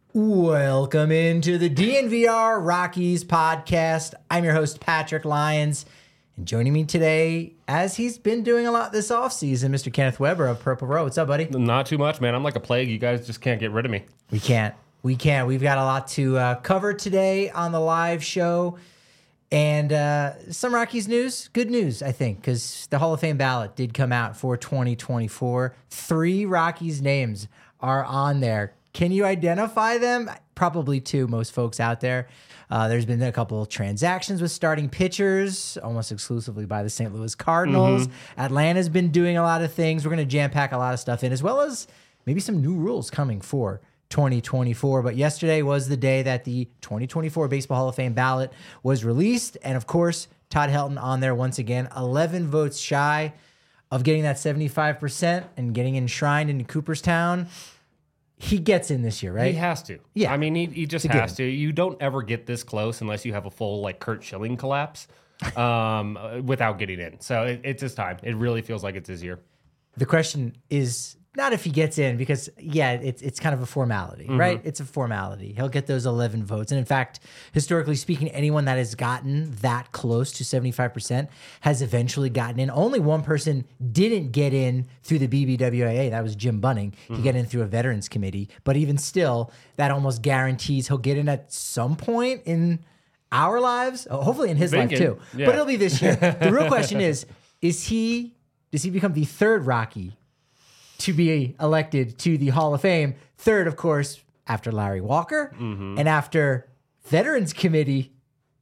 Welcome into the DNVR Rockies podcast. I'm your host, Patrick Lyons. And joining me today, as he's been doing a lot this offseason, Mr. Kenneth Weber of Purple Row. What's up, buddy? Not too much, man. I'm like a plague. You guys just can't get rid of me. We can't. We've got a lot to cover today on the live show. And some Rockies news. Good news, I think, because the Hall of Fame ballot did come out for 2024. 3 Rockies names are on there. Can you identify them? Probably 2, most folks out there. There's been a couple of transactions with starting pitchers, almost exclusively by the St. Louis Cardinals. Atlanta's been doing a lot of things. We're going to jam-pack a lot of stuff in, as well as maybe some new rules coming for 2024. But yesterday was the day that the 2024 Baseball Hall of Fame ballot was released. And, of course, Todd Helton on there once again, 11 votes shy of getting that 75% and getting enshrined in Cooperstown. He gets in this year, right? He has to. Yeah. I mean, he just has to. You don't ever get this close unless you have a full, like, Kurt Schilling collapse without getting in. So it's his time. It really feels like it's his year. The question is not if he gets in, because, yeah, it's kind of a formality, right? It's a formality. He'll get those 11 votes. And, in fact, historically speaking, anyone that has gotten that close to 75% has eventually gotten in. Only one person didn't get in through the BBWAA. That was Jim Bunning. He got in through a Veterans Committee. But even still, that almost guarantees he'll get in at some point in our lives, hopefully in his life too. Yeah. But it'll be this year. The real question is does he become the third Rocky to be elected to the Hall of Fame? Third, of course, after Larry Walker and after Veterans Committee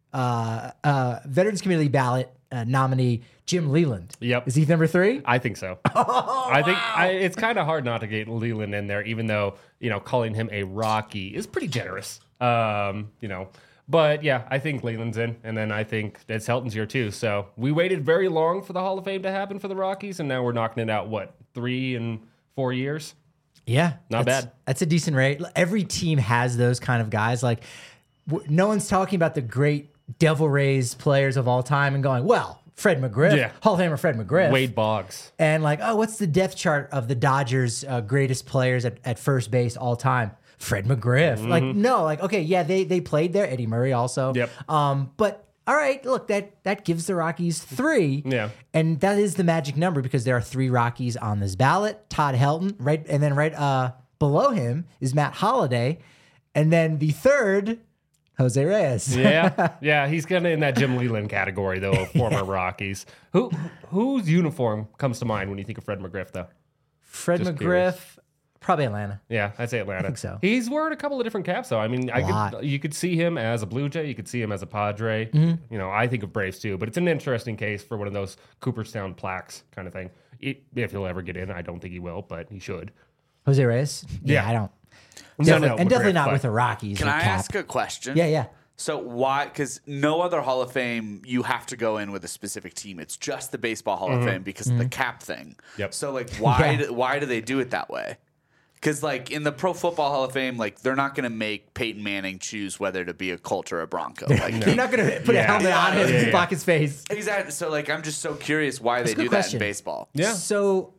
ballot nominee Jim Leland. Yep. Is he number 3? I think so. It's kind of hard not to get Leland in there, even though, calling him a Rocky is pretty generous. But yeah, I think Leland's in, and then I think it's Helton's year too. So we waited very long for the Hall of Fame to happen for the Rockies, and now we're knocking it out, 3 and 4 years? Yeah. Not bad. That's a decent rate. Every team has those kind of guys. Like, no one's talking about the great Devil Rays players of all time and going, well, Fred McGriff, Hall of Famer Fred McGriff. Wade Boggs. And like, oh, what's the depth chart of the Dodgers' greatest players at first base all time? Fred McGriff. Like, no, like, okay, yeah, they played there. Eddie Murray also. Yep. But all right, look, that gives the Rockies 3. Yeah. And that is the magic number because there are 3 Rockies on this ballot. Todd Helton, right, and then right below him is Matt Holliday, and then the third, Jose Reyes. Yeah, he's kind of in that Jim Leland category though of former Rockies. Whose uniform comes to mind when you think of Fred McGriff though? Fred Just McGriff. curious. Probably Atlanta. Yeah, I'd say Atlanta. I think so. He's wearing a couple of different caps, though. I mean, you could see him as a Blue Jay. You could see him as a Padre. I think of Braves, too. But it's an interesting case for one of those Cooperstown plaques kind of thing. If he'll ever get in. I don't think he will, but he should. Jose Reyes? Yeah. I don't. Definitely not with the Rockies. Can I ask a question? Yeah. So why? Because no other Hall of Fame, you have to go in with a specific team. It's just the Baseball Hall of Fame because of the cap thing. Yep. So, like, why do they do it that way? Because, like, in the Pro Football Hall of Fame, like, they're not going to make Peyton Manning choose whether to be a Colt or a Bronco. Like, You're not going to put a helmet on him and block his face. Exactly. So, like, I'm just so curious why they do that in baseball. Yeah. So,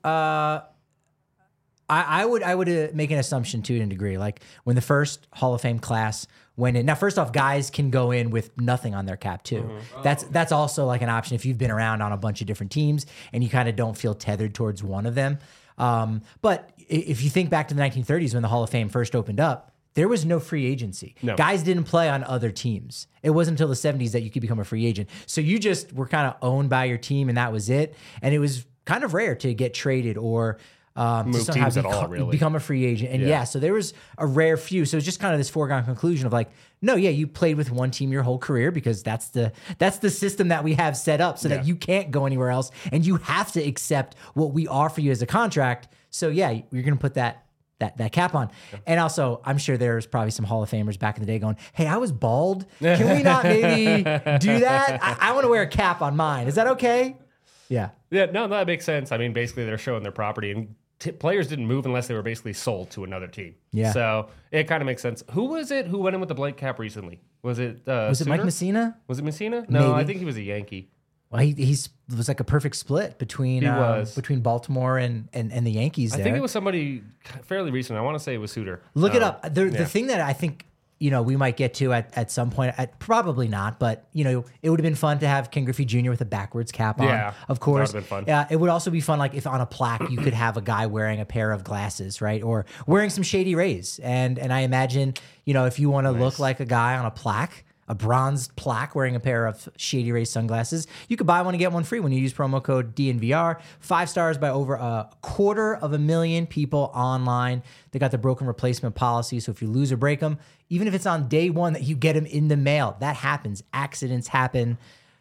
I would make an assumption to a degree. Like, when the first Hall of Fame class went in. Now, first off, guys can go in with nothing on their cap, too. That's also, like, an option if you've been around on a bunch of different teams and you kind of don't feel tethered towards one of them. But if you think back to the 1930s when the Hall of Fame first opened up, there was no free agency. No. Guys didn't play on other teams. It wasn't until the 70s that you could become a free agent. So you just were kind of owned by your team, and that was it. And it was kind of rare to get traded or to somehow teams at all, really. become a free agent. And so there was a rare few. So it's just kind of this foregone conclusion of like, no, you played with one team your whole career because that's the system that we have set up so that you can't go anywhere else and you have to accept what we offer you as a contract. So you're going to put that cap on. And also, I'm sure there's probably some Hall of Famers back in the day going, hey, I was bald. Can we not maybe do that? I want to wear a cap on mine. Is that okay? Yeah. Yeah, no, that makes sense. I mean, basically, they're showing their property, and players didn't move unless they were basically sold to another team. Yeah. So it kind of makes sense. Who was it who went in with the blank cap recently? Was it Was it Mike Suter? Messina? Was it Messina? No, Maybe. I think he was a Yankee. Well, he's was like a perfect split between Baltimore and the Yankees. I think it was somebody fairly recent. I want to say it was Suter. Look it up. The thing that I think we might get to at some point, probably not, but it would have been fun to have Ken Griffey Jr. with a backwards cap on. Yeah, of course. that would have been fun. It would also be fun, like if on a plaque you could have a guy wearing a pair of glasses, right, or wearing some Shady Rays, and I imagine if you want to look like a guy on a plaque. A bronze plaque wearing a pair of Shady Rays sunglasses. You could buy one and get one free when you use promo code DNVR. 5 stars by over 250,000 people online. They got the broken replacement policy, so if you lose or break them, even if it's on day one that you get them in the mail, that happens. Accidents happen.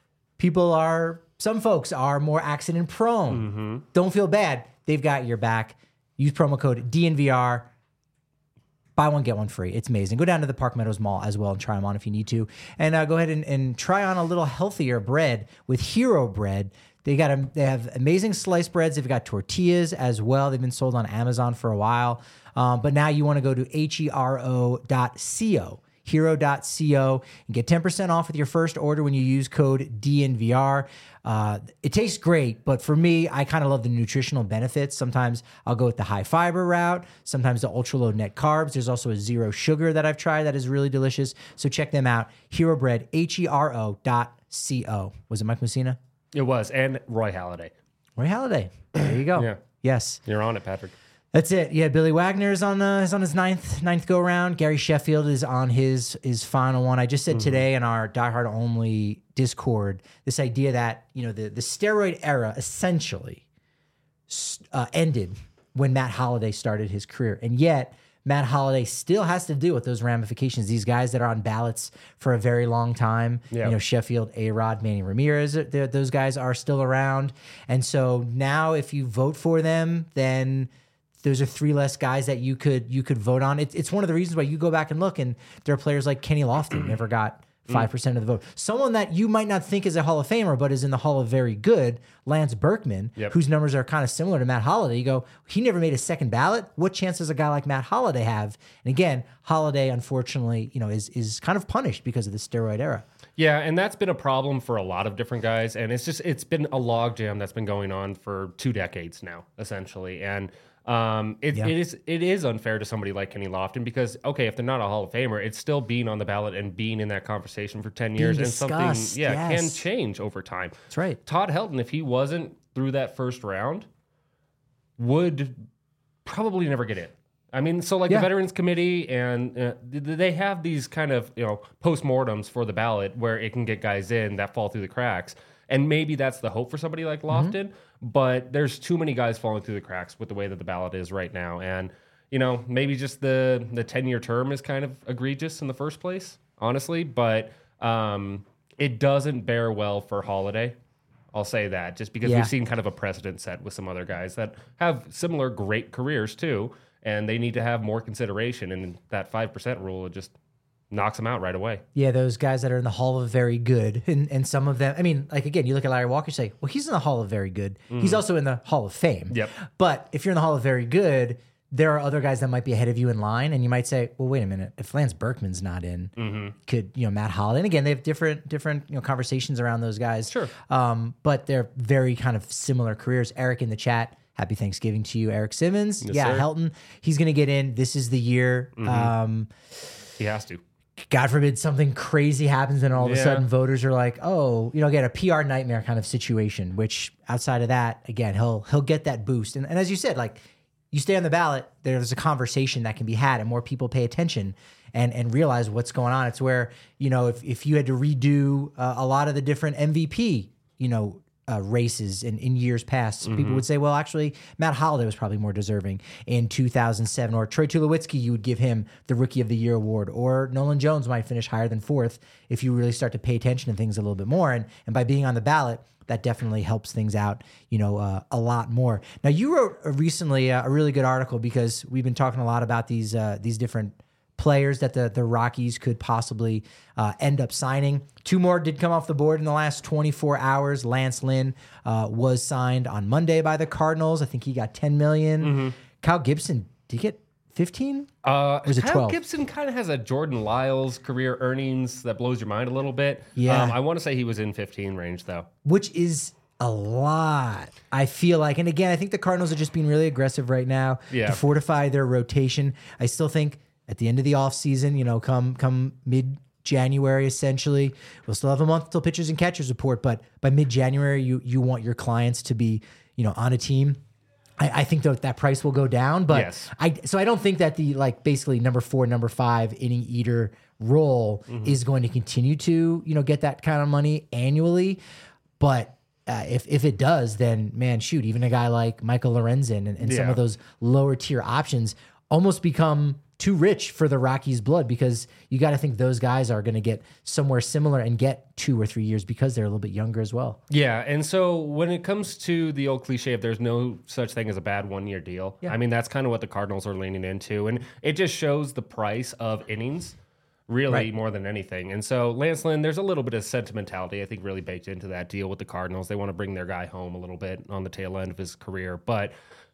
Some folks are more accident prone. Mm-hmm. Don't feel bad. They've got your back. Use promo code DNVR. Buy one, get one free. It's amazing. Go down to the Park Meadows Mall as well and try them on if you need to. And go ahead and try on a little healthier bread with Hero Bread. They have amazing sliced breads. They've got tortillas as well. They've been sold on Amazon for a while. But now you want to go to hero.co and get 10% off with your first order when you use code DNVR. It tastes great, but for me, I kind of love the nutritional benefits. Sometimes I'll go with the high fiber route, sometimes the ultra low net carbs. There's also a zero sugar that I've tried that is really delicious. So check them out. Hero Bread, hero.co. Was it Mike Mussina? It was, and Roy Halladay. Roy Halladay. There you go. Yeah. Yes. You're on it, Patrick. That's it. Yeah, Billy Wagner is on his ninth go round. Gary Sheffield is on his final one. I just said today in our Die Hard Only Discord this idea that the steroid era essentially ended when Matt Holliday started his career, and yet Matt Holliday still has to deal with those ramifications. These guys that are on ballots for a very long time, Sheffield, A-Rod, Manny Ramirez, those guys are still around, and so now if you vote for them, then those are 3 less guys that you could vote on. It's one of the reasons why you go back and look, and there are players like Kenny Lofton never got 5% of the vote. Someone that you might not think is a Hall of Famer, but is in the Hall of Very Good, Lance Berkman, whose numbers are kind of similar to Matt Holliday. You go, he never made a second ballot. What chance does a guy like Matt Holliday have? And again, Holliday, unfortunately, is kind of punished because of the steroid era. Yeah, and that's been a problem for a lot of different guys, and it's been a logjam that's been going on for 2 decades now, essentially, and. It is unfair to somebody like Kenny Lofton because, okay, if they're not a Hall of Famer, it's still being on the ballot and being in that conversation for 10 years. And something, can change over time. That's right. Todd Helton, if he wasn't through that first round, would probably never get in. I mean, so the Veterans Committee and they have these kind of, postmortems for the ballot where it can get guys in that fall through the cracks. And maybe that's the hope for somebody like Lofton, but there's too many guys falling through the cracks with the way that the ballot is right now. And, maybe just the 10-year term is kind of egregious in the first place, honestly, but it doesn't bear well for Holliday. I'll say that just because we've seen kind of a precedent set with some other guys that have similar great careers too, and they need to have more consideration. And that 5% rule, it just knocks them out right away. Yeah, those guys that are in the Hall of Very Good. And some of them, I mean, again, you look at Larry Walker, you say, well, he's in the Hall of Very Good. He's also in the Hall of Fame. Yep. But if you're in the Hall of Very Good, there are other guys that might be ahead of you in line. And you might say, well, wait a minute. If Lance Berkman's not in, could, Matt Holliday. And again, they have different conversations around those guys. Sure. But they're very kind of similar careers. Eric in the chat, happy Thanksgiving to you, Eric Simmons. Yes, sir. Helton, he's going to get in. This is the year. He has to. God forbid something crazy happens and all of a sudden voters are like, oh, again, a PR nightmare kind of situation, which outside of that, again, he'll get that boost. And as you said, you stay on the ballot, there's a conversation that can be had and more people pay attention and realize what's going on. It's where, if you had to redo a lot of the different MVP, races in years past, people would say, well, actually, Matt Holliday was probably more deserving in 2007. Or Troy Tulowitzki, you would give him the Rookie of the Year award. Or Nolan Jones might finish higher than 4th if you really start to pay attention to things a little bit more. And by being on the ballot, that definitely helps things out, a lot more. Now, you wrote recently a really good article because we've been talking a lot about these different players that the Rockies could possibly end up signing. 2 more did come off the board in the last 24 hours. Lance Lynn was signed on Monday by the Cardinals. I think he got $10 million. Kyle Gibson did get 15? Or is it Kyle 12? Gibson kind of has a Jordan Lyles career earnings that blows your mind a little bit. Yeah. I want to say he was in 15 range, though. Which is a lot, I feel like. And again, I think the Cardinals are just being really aggressive right now Yeah. to fortify their rotation. I still think at the end of the offseason, come mid-January, essentially, we'll still have a month till pitchers and catchers report, but by mid-January, you want your clients to be, on a team. I think that price will go down, but Yes. I don't think that the basically number 4, number 5 inning eater role is going to continue to get that kind of money annually. But if it does, then man, shoot, even a guy like Michael Lorenzen and some Yeah. of those lower tier options almost become too rich for the Rockies' blood, because you got to think those guys are going to get somewhere similar and get 2 or 3 years because they're a little bit younger as well. Yeah, and so when it comes to the old cliche of there's no such thing as a bad 1-year deal, Yeah. I mean, that's kind of what the Cardinals are leaning into. And it just shows the price of innings really Right. more than anything. And so Lance Lynn, there's a little bit of sentimentality, I think, really baked into that deal with the Cardinals. They want to bring their guy home a little bit on the tail end of his career. But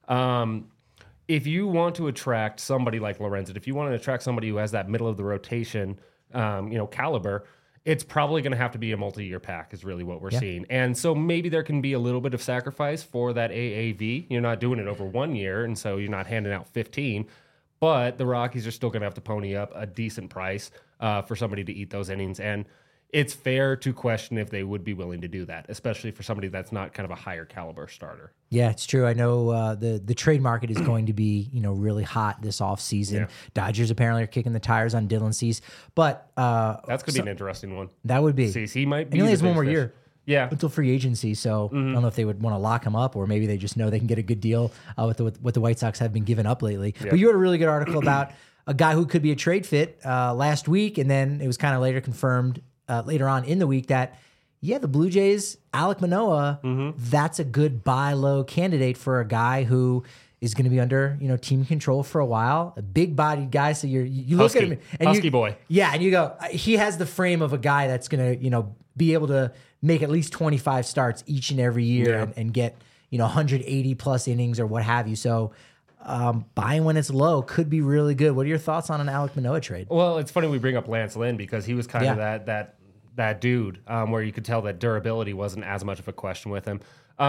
if you want to attract somebody like Lorenzen, if you want to attract somebody who has that middle of the rotation, caliber, it's probably going to have to be a multi-year pack is really what we're seeing. And so maybe there can be a little bit of sacrifice for that AAV. You're not doing it over 1 year, and so you're not handing out 15. But the Rockies are still going to have to pony up a decent price for somebody to eat those innings. And it's fair to question if they would be willing to do that, especially for somebody that's not kind of a higher caliber starter. Yeah, it's true. I know the trade market is going to be really hot this offseason. Yeah. Dodgers apparently are kicking the tires on Dylan Cease, but That's going to be an interesting one. that would be. Cease, he might And be he only the has one big more fish. year Yeah. until free agency, so I don't know if they would want to lock him up, or maybe they just know they can get a good deal with what the White Sox have been giving up lately. But you wrote a really good article about a guy who could be a trade fit last week, and then it was kind of later confirmed later on in the week that the Blue Jays, Alek Manoah, that's a good buy low candidate for a guy who is going to be under team control for a while, a big bodied guy. So you look at him and Husky boy. yeah, and you go, he has the frame of a guy that's going to be able to make at least 25 starts each and every year and get 180 plus innings or what have you. So buying when it's low could be really good. What are your thoughts on an Alek Manoah trade? Well, it's funny we bring up Lance Lynn because he was kind of that dude where you could tell that durability wasn't as much of a question with him.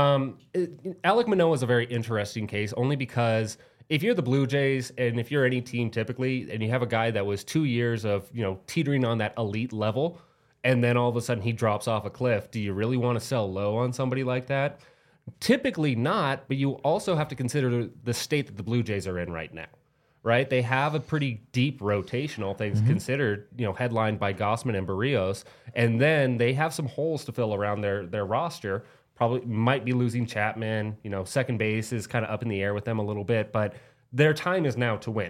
Alek Manoah is a very interesting case only because if you're the Blue Jays and if you're any team typically and you have a guy that was 2 years of teetering on that elite level and then all of a sudden he drops off a cliff, do you really want to sell low on somebody like that? Typically not, but you also have to consider the state that the Blue Jays are in right now, right? They have a pretty deep rotation, all things considered, headlined by Gausman and Barrios, and then they have some holes to fill around their roster. Probably might be losing Chapman, second base is kind of up in the air with them a little bit, but their time is now to win.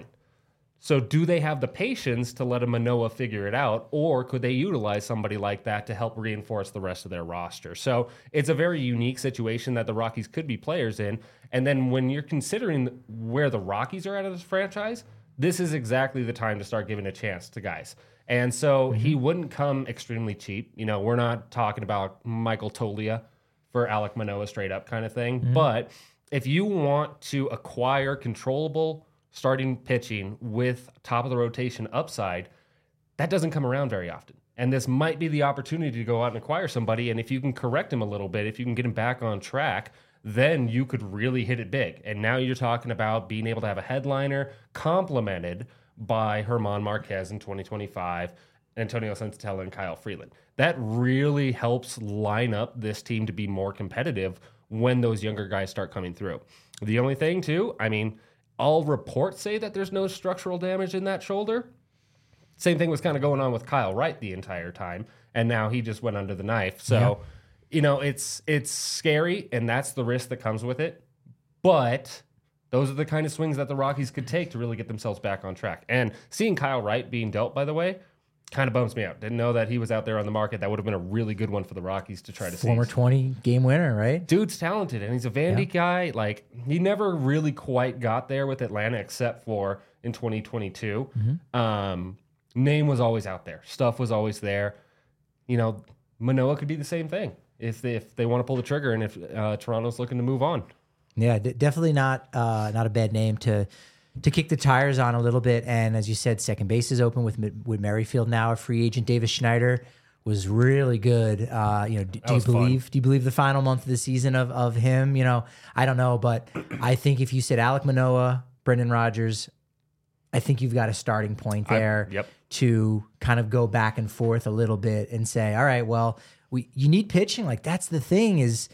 So do they have the patience to let a Manoah figure it out, or could they utilize somebody like that to help reinforce the rest of their roster? So it's a very unique situation that the Rockies could be players in. And then when you're considering where the Rockies are at of this franchise, this is exactly the time to start giving a chance to guys. And so he wouldn't come extremely cheap. We're not talking about Michael Toglia for Alek Manoah straight up kind of thing. But if you want to acquire controllable starting pitching with top of the rotation upside, that doesn't come around very often. And this might be the opportunity to go out and acquire somebody. And if you can correct him a little bit, if you can get him back on track, then you could really hit it big. And now you're talking about being able to have a headliner complemented by German Marquez in 2025, Antonio Senzatella, and Kyle Freeland. That really helps line up this team to be more competitive when those younger guys start coming through. The only thing, too, all reports say that there's no structural damage in that shoulder. Same thing was kind of going on with Kyle Wright the entire time, and now he just went under the knife. So, it's scary, and that's the risk that comes with it. But those are the kind of swings that the Rockies could take to really get themselves back on track. And seeing Kyle Wright being dealt, by the way, kind of bums me out. Didn't know that he was out there on the market. That would have been a really good one for the Rockies to try to see. Former 20-game winner, right? Dude's talented, and he's a Vandy guy. Like, he never really quite got there with Atlanta except for in 2022. Name was always out there. Stuff was always there. Manoah could be the same thing if they want to pull the trigger and if Toronto's looking to move on. Yeah, definitely not a bad name to to kick the tires on a little bit. And as you said, second base is open with Merrifield now a free agent. Davis Schneider was really good. Do you believe the final month of the season of him? I don't know, but I think if you said Alek Manoah, Brendan Rodgers, I think you've got a starting point there to kind of go back and forth a little bit and say, all right, well, you need pitching. Like, that's the thing is,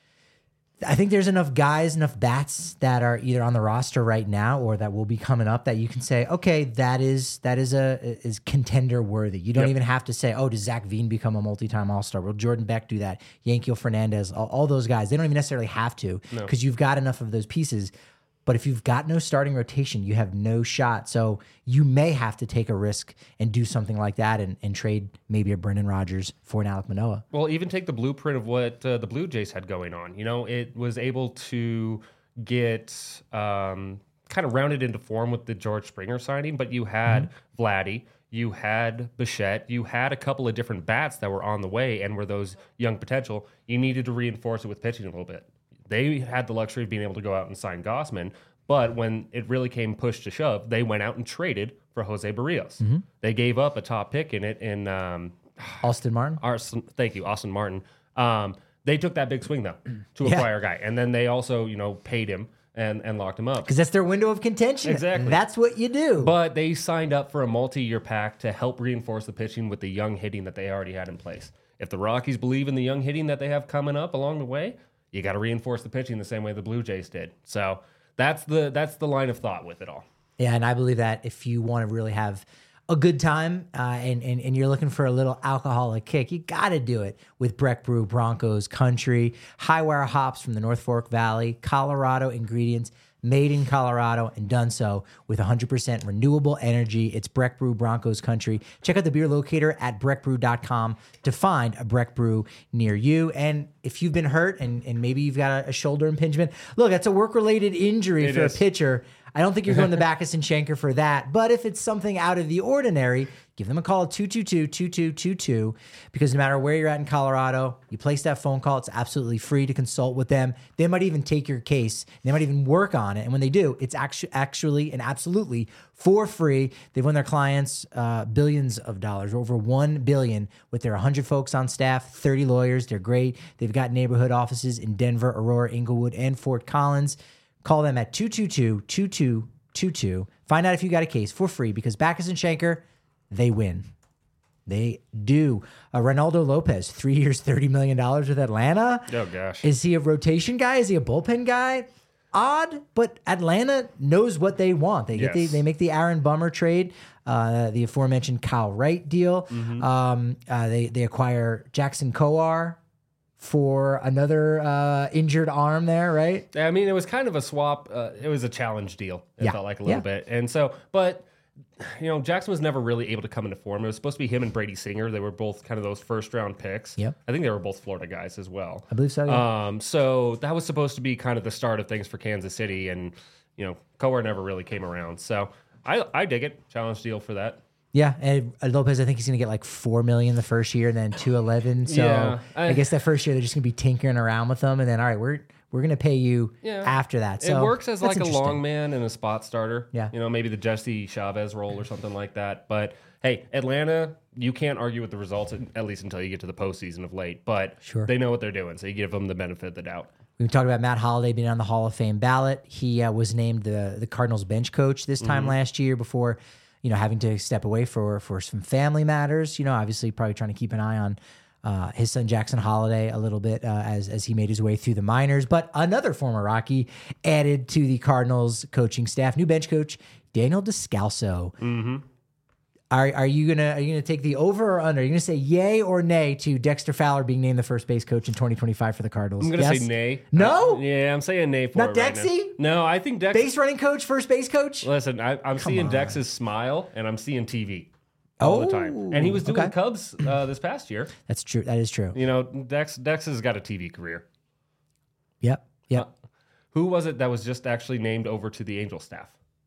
I think there's enough guys, enough bats that are either on the roster right now or that will be coming up that you can say, okay, that is contender worthy. You don't even have to say, oh, does Zach Veen become a multi-time All-Star? Will Jordan Beck do that? Yankiel Fernandez, all those guys. They don't even necessarily have to because you've got enough of those pieces. But if you've got no starting rotation, you have no shot. So you may have to take a risk and do something like that and trade maybe a Brendan Rodgers for an Alek Manoah. Well, even take the blueprint of what the Blue Jays had going on. It was able to get kind of rounded into form with the George Springer signing, but you had Vladdy, you had Bichette, you had a couple of different bats that were on the way and were those young potential. You needed to reinforce it with pitching a little bit. They had the luxury of being able to go out and sign Gossman, but when it really came push to shove, they went out and traded for Jose Barrios. They gave up a top pick in it in Austin Martin. Thank you, Austin Martin. They took that big swing though to acquire a guy, and then they also paid him and locked him up because that's their window of contention. Exactly, that's what you do. But they signed up for a multi-year pact to help reinforce the pitching with the young hitting that they already had in place. If the Rockies believe in the young hitting that they have coming up along the way, you got to reinforce the pitching the same way the Blue Jays did. So that's the line of thought with it all. Yeah, and I believe that if you want to really have a good time and you're looking for a little alcoholic kick, you got to do it with Breck Brew Broncos Country. High-wire hops from the North Fork Valley, Colorado ingredients, made in Colorado and done so with 100% renewable energy. It's Breck Brew Broncos Country. Check out the beer locator at breckbrew.com to find a Breck Brew near you. And if you've been hurt and maybe you've got a shoulder impingement, look, that's a work-related injury for a pitcher. I don't think you're going to Backus and Schenker for that. But if it's something out of the ordinary, give them a call at 222-2222 because no matter where you're at in Colorado, you place that phone call. It's absolutely free to consult with them. They might even take your case. They might even work on it. And when they do, it's actually and absolutely for free. They've won their clients billions of dollars, over $1 billion with their 100 folks on staff, 30 lawyers. They're great. They've got neighborhood offices in Denver, Aurora, Inglewood, and Fort Collins. Call them at 222-2222. Find out if you got a case for free because Backus and Schenker, they win. They do. Reynaldo Lopez, 3 years, $30 million with Atlanta. Oh, gosh. Is he a rotation guy? Is he a bullpen guy? Odd, but Atlanta knows what they want. They they make the Aaron Bummer trade, the aforementioned Kyle Wright deal. They acquire Jackson Kowar for another injured arm there, right? I mean, it was kind of a swap. It was a challenge deal. It felt like a little bit. And so, but, Jackson was never really able to come into form. It was supposed to be him and Brady Singer. They were both kind of those first-round picks. Yep. I think they were both Florida guys as well. I believe so, yeah. So that was supposed to be kind of the start of things for Kansas City, and, Kowar never really came around. So I dig it. Challenge deal for that. Yeah, and Lopez, I think he's going to get like $4 million the first year, and then $211. So I guess that first year they're just going to be tinkering around with them, and then all right, we're going to pay you after that. So it works as like a long man and a spot starter. Yeah, maybe the Jesse Chavez role or something like that. But hey, Atlanta, you can't argue with the results at least until you get to the postseason of late. But they know what they're doing, so you give them the benefit of the doubt. We talked about Matt Holliday being on the Hall of Fame ballot. He was named the Cardinals bench coach this time last year before, having to step away for some family matters. Obviously probably trying to keep an eye on his son Jackson Holliday a little bit as he made his way through the minors. But another former Rocky added to the Cardinals coaching staff, new bench coach Daniel Descalso. Mm-hmm. Are you gonna take the over or under? Are you gonna say yay or nay to Dexter Fowler being named the first base coach in 2025 for the Cardinals? I'm gonna say nay. No? I'm saying nay for not it right Dexy? now. No, I think Dex. Base running coach, first base coach? Listen, I'm seeing Dex's smile and I'm seeing TV all the time. And he was doing the Cubs this past year. That's true. That is true. Dex has got a TV career. Yep. Who was it that was just actually named over to the Angel staff?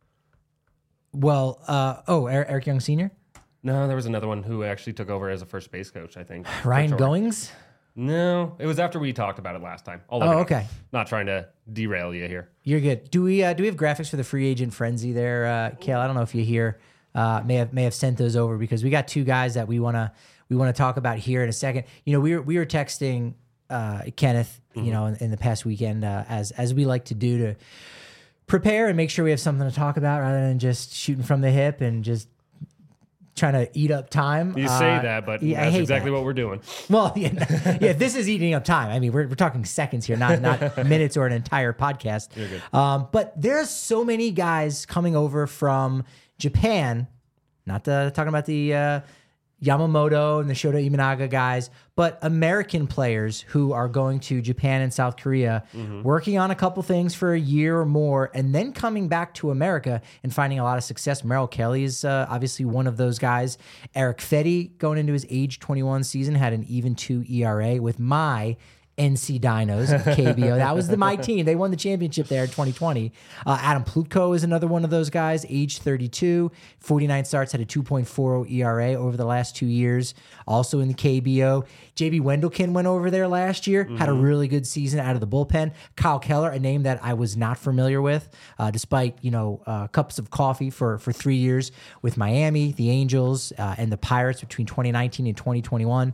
Well, Eric Young Sr.? No, there was another one who actually took over as a first base coach, I think. Ryan Goings? No, it was after we talked about it last time. I'll look it up. Okay. Not trying to derail you here. You're good. Do we have graphics for the free agent frenzy there, Kale? I don't know if you hear. May have sent those over because we got two guys that we want to talk about here in a second. We were texting Kenneth, in the past weekend as we like to do to prepare and make sure we have something to talk about rather than just shooting from the hip and just trying to eat up time. You say that, but that's exactly what we're doing. Well, this is eating up time. I mean, we're talking seconds here, not minutes or an entire podcast. You're good. But there's so many guys coming over from Japan, not talking about the Yamamoto and the Shota Imanaga guys, but American players who are going to Japan and South Korea, working on a couple things for a year or more, and then coming back to America and finding a lot of success. Merrill Kelly is obviously one of those guys. Eric Fetty, going into his age 21 season, had an even 2 ERA with my NC Dinos, KBO. That was my team. They won the championship there in 2020. Adam Plutko is another one of those guys, age 32, 49 starts, had a 2.40 ERA over the last 2 years, also in the KBO. JB Wendelken went over there last year, had a really good season out of the bullpen. Kyle Keller, a name that I was not familiar with, despite cups of coffee for 3 years with Miami, the Angels, and the Pirates between 2019 and 2021.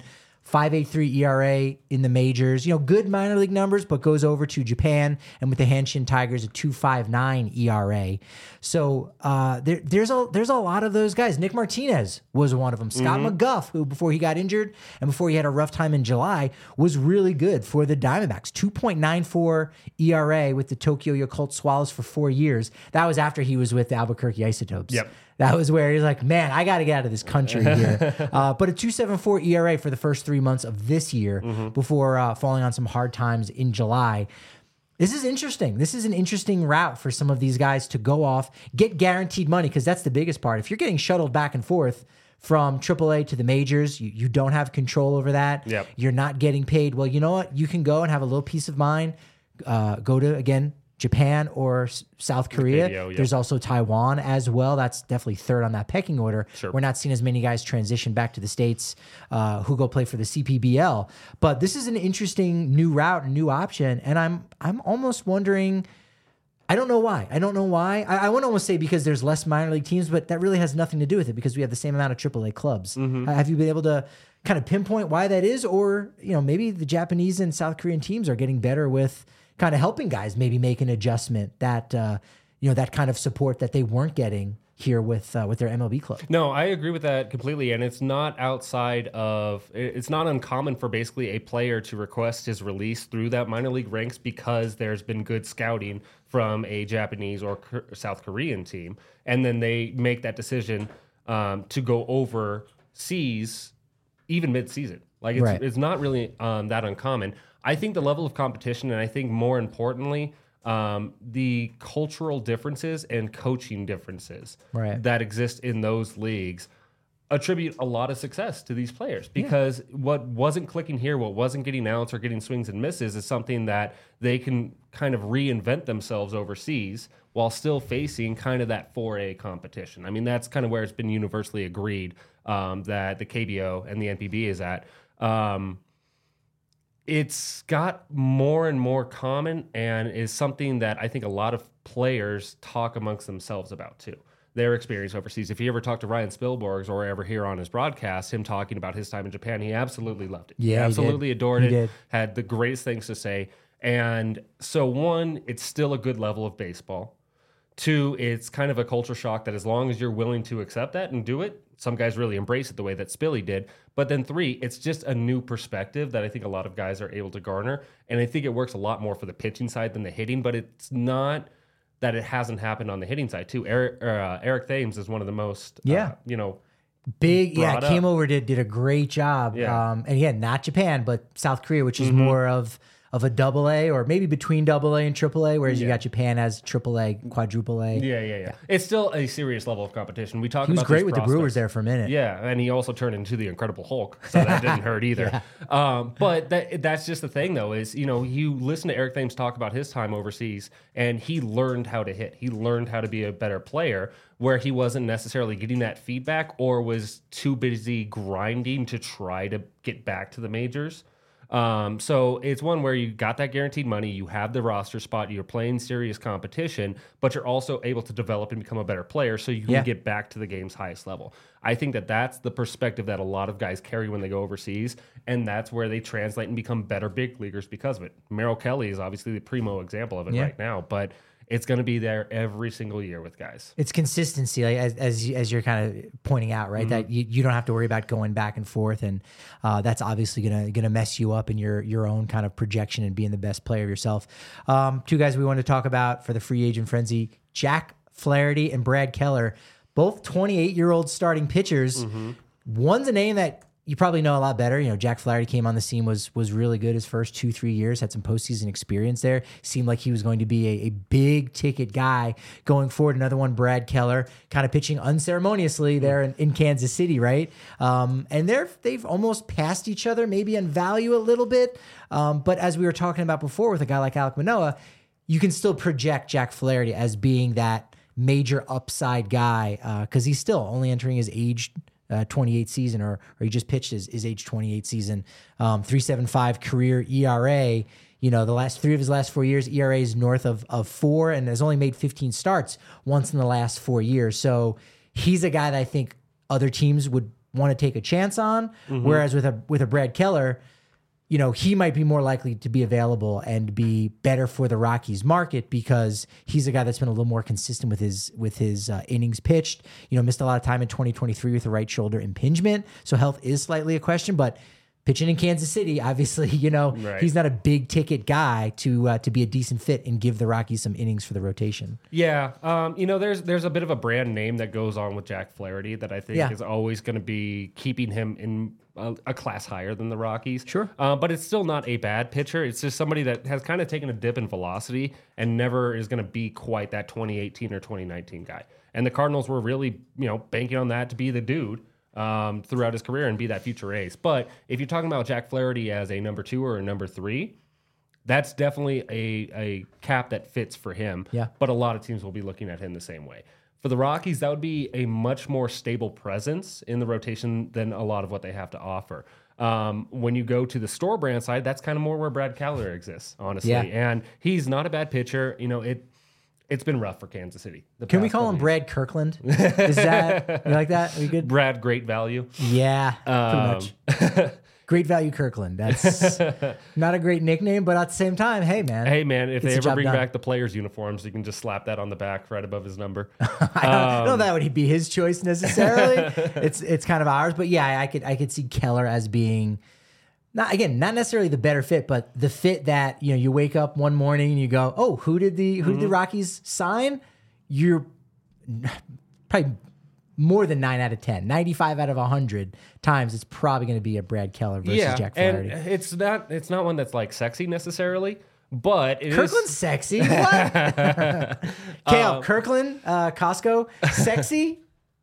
5.83 ERA in the majors, good minor league numbers, but goes over to Japan and with the Hanshin Tigers a 2.59 ERA. So there's a lot of those guys. Nick Martinez was one of them. Scott McGuff, who before he got injured and before he had a rough time in July, was really good for the Diamondbacks. 2.94 ERA with the Tokyo Yakult Swallows for 4 years. That was after he was with the Albuquerque Isotopes. Yep. That was where he's like, man, I got to get out of this country here. But a 2.74 ERA for the first 3 months of this year before falling on some hard times in July. This is interesting. This is an interesting route for some of these guys to go off, get guaranteed money, because that's the biggest part. If you're getting shuttled back and forth from AAA to the majors, you don't have control over that. Yep. You're not getting paid. Well, you know what? You can go and have a little peace of mind. Go to, again, Japan or South Korea. KBO, yep. There's also Taiwan as well. That's definitely third on that pecking order. Sure. We're not seeing as many guys transition back to the States who go play for the CPBL. But this is an interesting new route, new option. And I'm almost wondering, I don't know why. I want to almost say because there's less minor league teams, but that really has nothing to do with it because we have the same amount of AAA clubs. Have you been able to kind of pinpoint why that is? Or, maybe the Japanese and South Korean teams are getting better with kind of helping guys maybe make an adjustment that, that kind of support that they weren't getting here with their MLB club. No, I agree with that completely. And it's not it's not uncommon for basically a player to request his release through that minor league ranks because there's been good scouting from a Japanese or South Korean team. And then they make that decision to go overseas even mid-season. Like it's not really that uncommon. I think the level of competition, and I think more importantly, the cultural differences and coaching differences that exist in those leagues attribute a lot of success to these players because what wasn't clicking here, what wasn't getting outs or getting swings and misses is something that they can kind of reinvent themselves overseas while still facing kind of that 4A competition. I mean, that's kind of where it's been universally agreed that the KBO and the NPB is at. It's got more and more common and is something that I think a lot of players talk amongst themselves about too. Their experience overseas. If you ever talk to Ryan Spielborgs or ever hear on his broadcast him talking about his time in Japan, he absolutely loved it. Yeah, he absolutely adored it. Had the greatest things to say. And so one, it's still a good level of baseball. Two, it's kind of a culture shock that as long as you're willing to accept that and do it, some guys really embrace it the way that Spilly did. But then three, it's just a new perspective that I think a lot of guys are able to garner. And I think it works a lot more for the pitching side than the hitting, but it's not that it hasn't happened on the hitting side too. Eric Thames is one of the most, big, came up. over, did a great job. Yeah. And again, not Japan, but South Korea, which is more of a double A or maybe between double A and triple A, whereas you got Japan as triple A, quadruple A. Yeah. It's still a serious level of competition. We talk He was about great these with prospects. the Brewers there for a minute. Yeah, and he also turned into the Incredible Hulk, so that didn't hurt either. But that's just the thing, though, is, you listen to Eric Thames talk about his time overseas, and he learned how to hit. He learned how to be a better player, where he wasn't necessarily getting that feedback or was too busy grinding to try to get back to the majors. So it's one where you got that guaranteed money, you have the roster spot, you're playing serious competition, but you're also able to develop and become a better player so you can get back to the game's highest level. I think that that's the perspective that a lot of guys carry when they go overseas, and that's where they translate and become better big leaguers because of it. Merrill Kelly is obviously the primo example of it right now, but it's going to be there every single year with guys. It's consistency, like, as you're kind of pointing out, right? That you don't have to worry about going back and forth, and that's obviously gonna mess you up in your own kind of projection and being the best player of yourself. Two guys we want to talk about for the free agent frenzy: Jack Flaherty and Brad Keller, both 28-year-old starting pitchers. One's a name that you probably know a lot better. You know, Jack Flaherty came on the scene, was really good his first 2-3 years, had some postseason experience there. Seemed like he was going to be a big ticket guy going forward. Another one, Brad Keller, kind of pitching unceremoniously there in Kansas City, right? And they've almost passed each other, maybe in value a little bit. But as we were talking about before with a guy like Alek Manoah, you can still project Jack Flaherty as being that major upside guy because he's still only entering his age 28 season, or he just pitched his age 28 season. 3.75 career ERA. You know, the last 3 of his last 4 years, ERA is north of 4, and has only made 15 starts once in the last 4 years. So he's a guy that I think other teams would want to take a chance on. Whereas with a Brad Keller, you know, he might be more likely to be available and be better for the Rockies market because he's a guy that's been a little more consistent with his innings pitched. You know, missed a lot of time in 2023 with a right shoulder impingement, so health is slightly a question. But pitching in Kansas City, obviously, you know, he's not a big ticket guy to be a decent fit and give the Rockies some innings for the rotation. Yeah, you know, there's a bit of a brand name that goes on with Jack Flaherty that I think is always going to be keeping him in a class higher than the Rockies. Sure. But it's still not a bad pitcher. It's just somebody that has kind of taken a dip in velocity and never is going to be quite that 2018 or 2019 guy. And the Cardinals were really, you know, banking on that to be the dude throughout his career and be that future ace. But if you're talking about Jack Flaherty as a number 2 or a number 3, that's definitely a cap that fits for him. Yeah. But a lot of teams will be looking at him the same way. For the Rockies, that would be a much more stable presence in the rotation than a lot of what they have to offer. When you go to the store brand side, that's kind of more where Brad Keller exists, honestly. Yeah. And he's not a bad pitcher. You know, it's been rough for Kansas City. Can we call him Brad Kirkland? Is that, you like that? Are you good? Brad Great Value. Yeah, pretty much. Great Value Kirkland. That's not a great nickname, but at the same time, hey, man. Hey, man, if they the ever job bring done. back the players' uniforms, you can just slap that on the back right above his number. I don't know that would be his choice necessarily. It's kind of ours, but yeah, I could see Keller as being not necessarily the better fit, but the fit that, you know, you wake up one morning and you go, oh, who did the Rockies sign? You're probably more than 9 out of 10, 95 out of 100 times, it's probably going to be a Brad Keller versus Jack Flaherty. And it's not one that's like sexy necessarily, but it Kirkland's is sexy. What? Kale, Kirkland, Costco, sexy?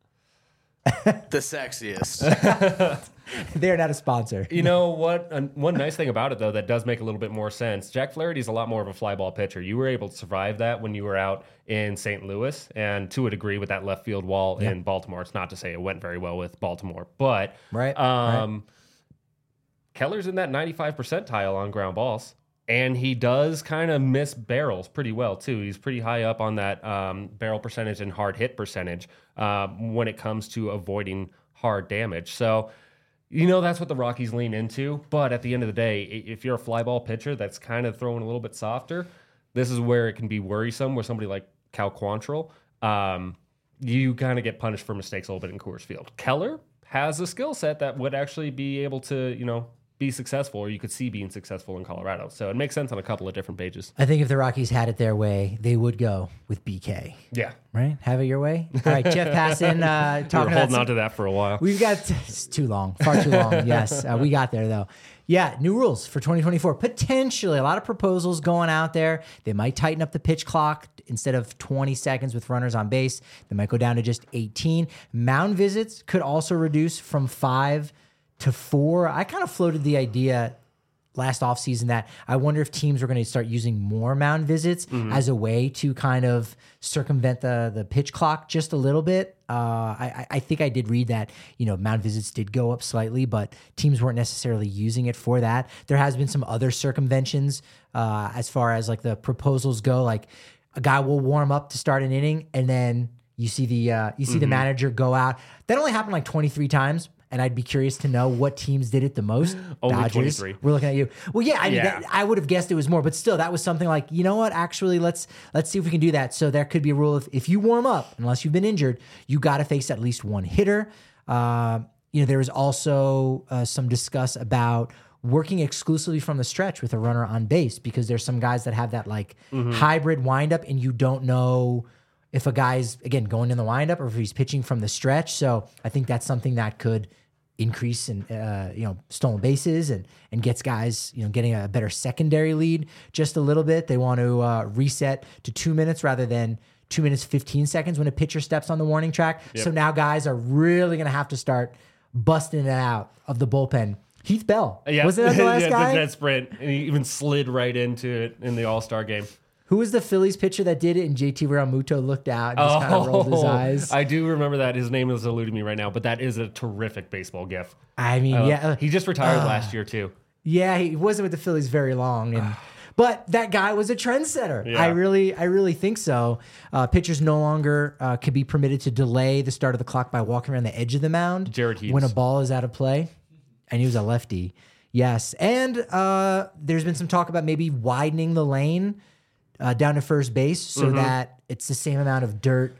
The sexiest. They're not a sponsor. You know what? One nice thing about it, though, that does make a little bit more sense. Jack Flaherty's a lot more of a fly ball pitcher. You were able to survive that when you were out in St. Louis, and to a degree with that left field wall in Baltimore. It's not to say it went very well with Baltimore, but Right. Keller's in that 95 percentile on ground balls, and he does kind of miss barrels pretty well, too. He's pretty high up on that barrel percentage and hard hit percentage when it comes to avoiding hard damage. So, you know, that's what the Rockies lean into. But at the end of the day, if you're a fly ball pitcher that's kind of throwing a little bit softer, this is where it can be worrisome with somebody like Cal Quantrill. You kind of get punished for mistakes a little bit in Coors Field. Keller has a skill set that would actually be able to, you know, be successful, or you could see being successful in Colorado. So it makes sense on a couple of different pages. I think if the Rockies had it their way, they would go with BK. Yeah. Right? Have it your way? All right, Jeff Passan talking We were about holding on to that for a while. We've got it's too long, far too long. Yes, we got there though. Yeah, new rules for 2024. Potentially a lot of proposals going out there. They might tighten up the pitch clock instead of 20 seconds with runners on base. They might go down to just 18. Mound visits could also reduce from 5 to 4. I kind of floated the idea last offseason that I wonder if teams were going to start using more mound visits as a way to kind of circumvent the pitch clock just a little bit. I think I did read that, mound visits did go up slightly, but teams weren't necessarily using it for that. There has been some other circumventions as far as like the proposals go. Like a guy will warm up to start an inning, and then you see the manager go out. That only happened like 23 times. And I'd be curious to know what teams did it the most. Only Dodgers. 23. We're looking at you. Well, yeah, I mean, I would have guessed it was more, but still, that was something like, you know what? Actually, let's see if we can do that. So there could be a rule if you warm up, unless you've been injured, you got to face at least one hitter. There was also some discuss about working exclusively from the stretch with a runner on base, because there's some guys that have that like hybrid windup, and you don't know if a guy's, again, going in the windup or if he's pitching from the stretch. So I think that's something that could increase in stolen bases and gets guys getting a better secondary lead just a little bit. They want to reset to 2 minutes rather than 2 minutes 15 seconds when a pitcher steps on the warning track. Yep. So now guys are really going to have to start busting it out of the bullpen. Heath Bell, wasn't that the last guy? That sprint, and he even slid right into it in the All-Star game. Who was the Phillies pitcher that did it? And JT Realmuto looked out and just kind of rolled his eyes. I do remember that. His name is eluding me right now, but that is a terrific baseball gif. I mean, he just retired last year too. Yeah, he wasn't with the Phillies very long, but that guy was a trendsetter. Yeah. I really think so. Pitchers no longer could be permitted to delay the start of the clock by walking around the edge of the mound Jared Hughes. when a ball is out of play, and he was a lefty. Yes, and there's been some talk about maybe widening the lane down to first base so that it's the same amount of dirt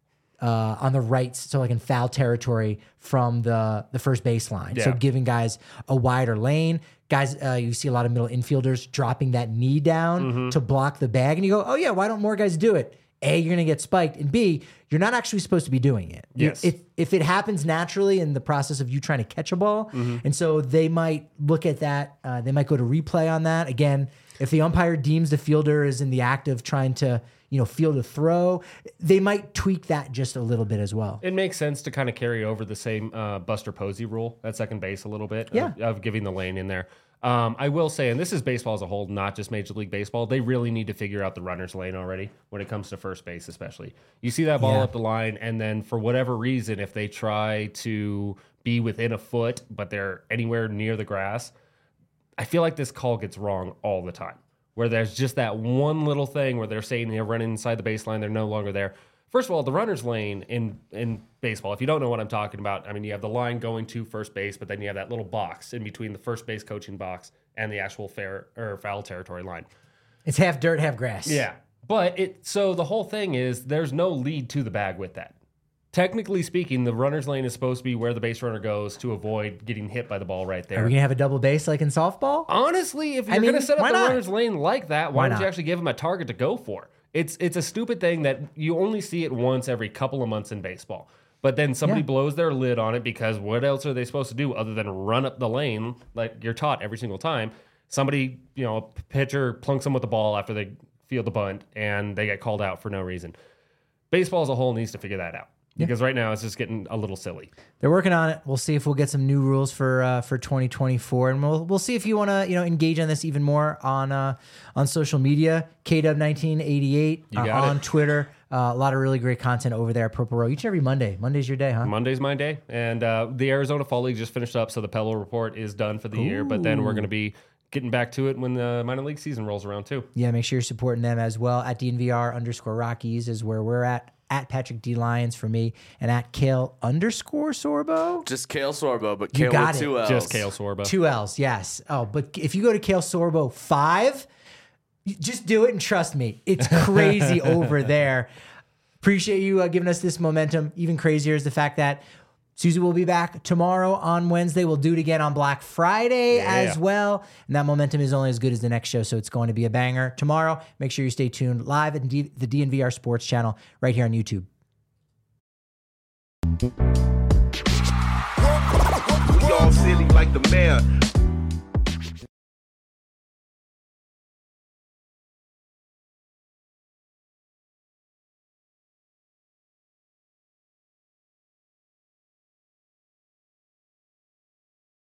on the right, so like in foul territory from the first baseline. So giving guys a wider lane. Guys, you see a lot of middle infielders dropping that knee down to block the bag, and you go, oh yeah, why don't more guys do it? A, you're going to get spiked, and B, you're not actually supposed to be doing it. Yes. If it happens naturally in the process of you trying to catch a ball, and so they might look at that, they might go to replay on that. Again, if the umpire deems the fielder is in the act of trying to, field a throw, they might tweak that just a little bit as well. It makes sense to kind of carry over the same Buster Posey rule at second base a little bit of giving the lane in there. I will say, and this is baseball as a whole, not just Major League Baseball, they really need to figure out the runner's lane already when it comes to first base especially. You see that ball up the line, and then for whatever reason, if they try to be within a foot, but they're anywhere near the grass, I feel like this call gets wrong all the time, where there's just that one little thing where they're saying they're running inside the baseline, they're no longer there. First of all, the runner's lane in baseball, if you don't know what I'm talking about, I mean, you have the line going to first base, but then you have that little box in between the first base coaching box and the actual fair or foul territory line. It's half dirt, half grass. Yeah. But so the whole thing is there's no lead to the bag with that. Technically speaking, the runner's lane is supposed to be where the base runner goes to avoid getting hit by the ball right there. Are we going to have a double base like in softball? Honestly, if you're going to set up the runner's lane like that, why don't not? you actually give him a target to go for? It's a stupid thing that you only see it once every couple of months in baseball. But then somebody blows their lid on it because what else are they supposed to do other than run up the lane like you're taught every single time? Somebody, a pitcher plunks them with the ball after they field the bunt and they get called out for no reason. Baseball as a whole needs to figure that out. Because right now it's just getting a little silly. They're working on it. We'll see if we'll get some new rules for 2024, and we'll see if you want to engage on this even more on social media. KW1988 on Twitter. A lot of really great content over there at Purple Row each and every Monday. Monday's your day, huh? Monday's my day, and the Arizona Fall League just finished up, so the Pelo Report is done for the year. But then we're going to be getting back to it when the minor league season rolls around too. Yeah, make sure you're supporting them as well. At DNVR_Rockies is where we're at. At Patrick D. Lyons for me, and at Kale_Sorbo. Just Kale Sorbo, but You Kale got with it. 2 L's. Just Kale Sorbo. 2 L's, yes. Oh, but if you go to Kale Sorbo 5, just do it and trust me. It's crazy over there. Appreciate you giving us this momentum. Even crazier is the fact that Susie will be back tomorrow on Wednesday. We'll do it again on Black Friday as well. And that momentum is only as good as the next show, so it's going to be a banger tomorrow. Make sure you stay tuned live at the DNVR Sports channel right here on YouTube. We all silly like the mayor.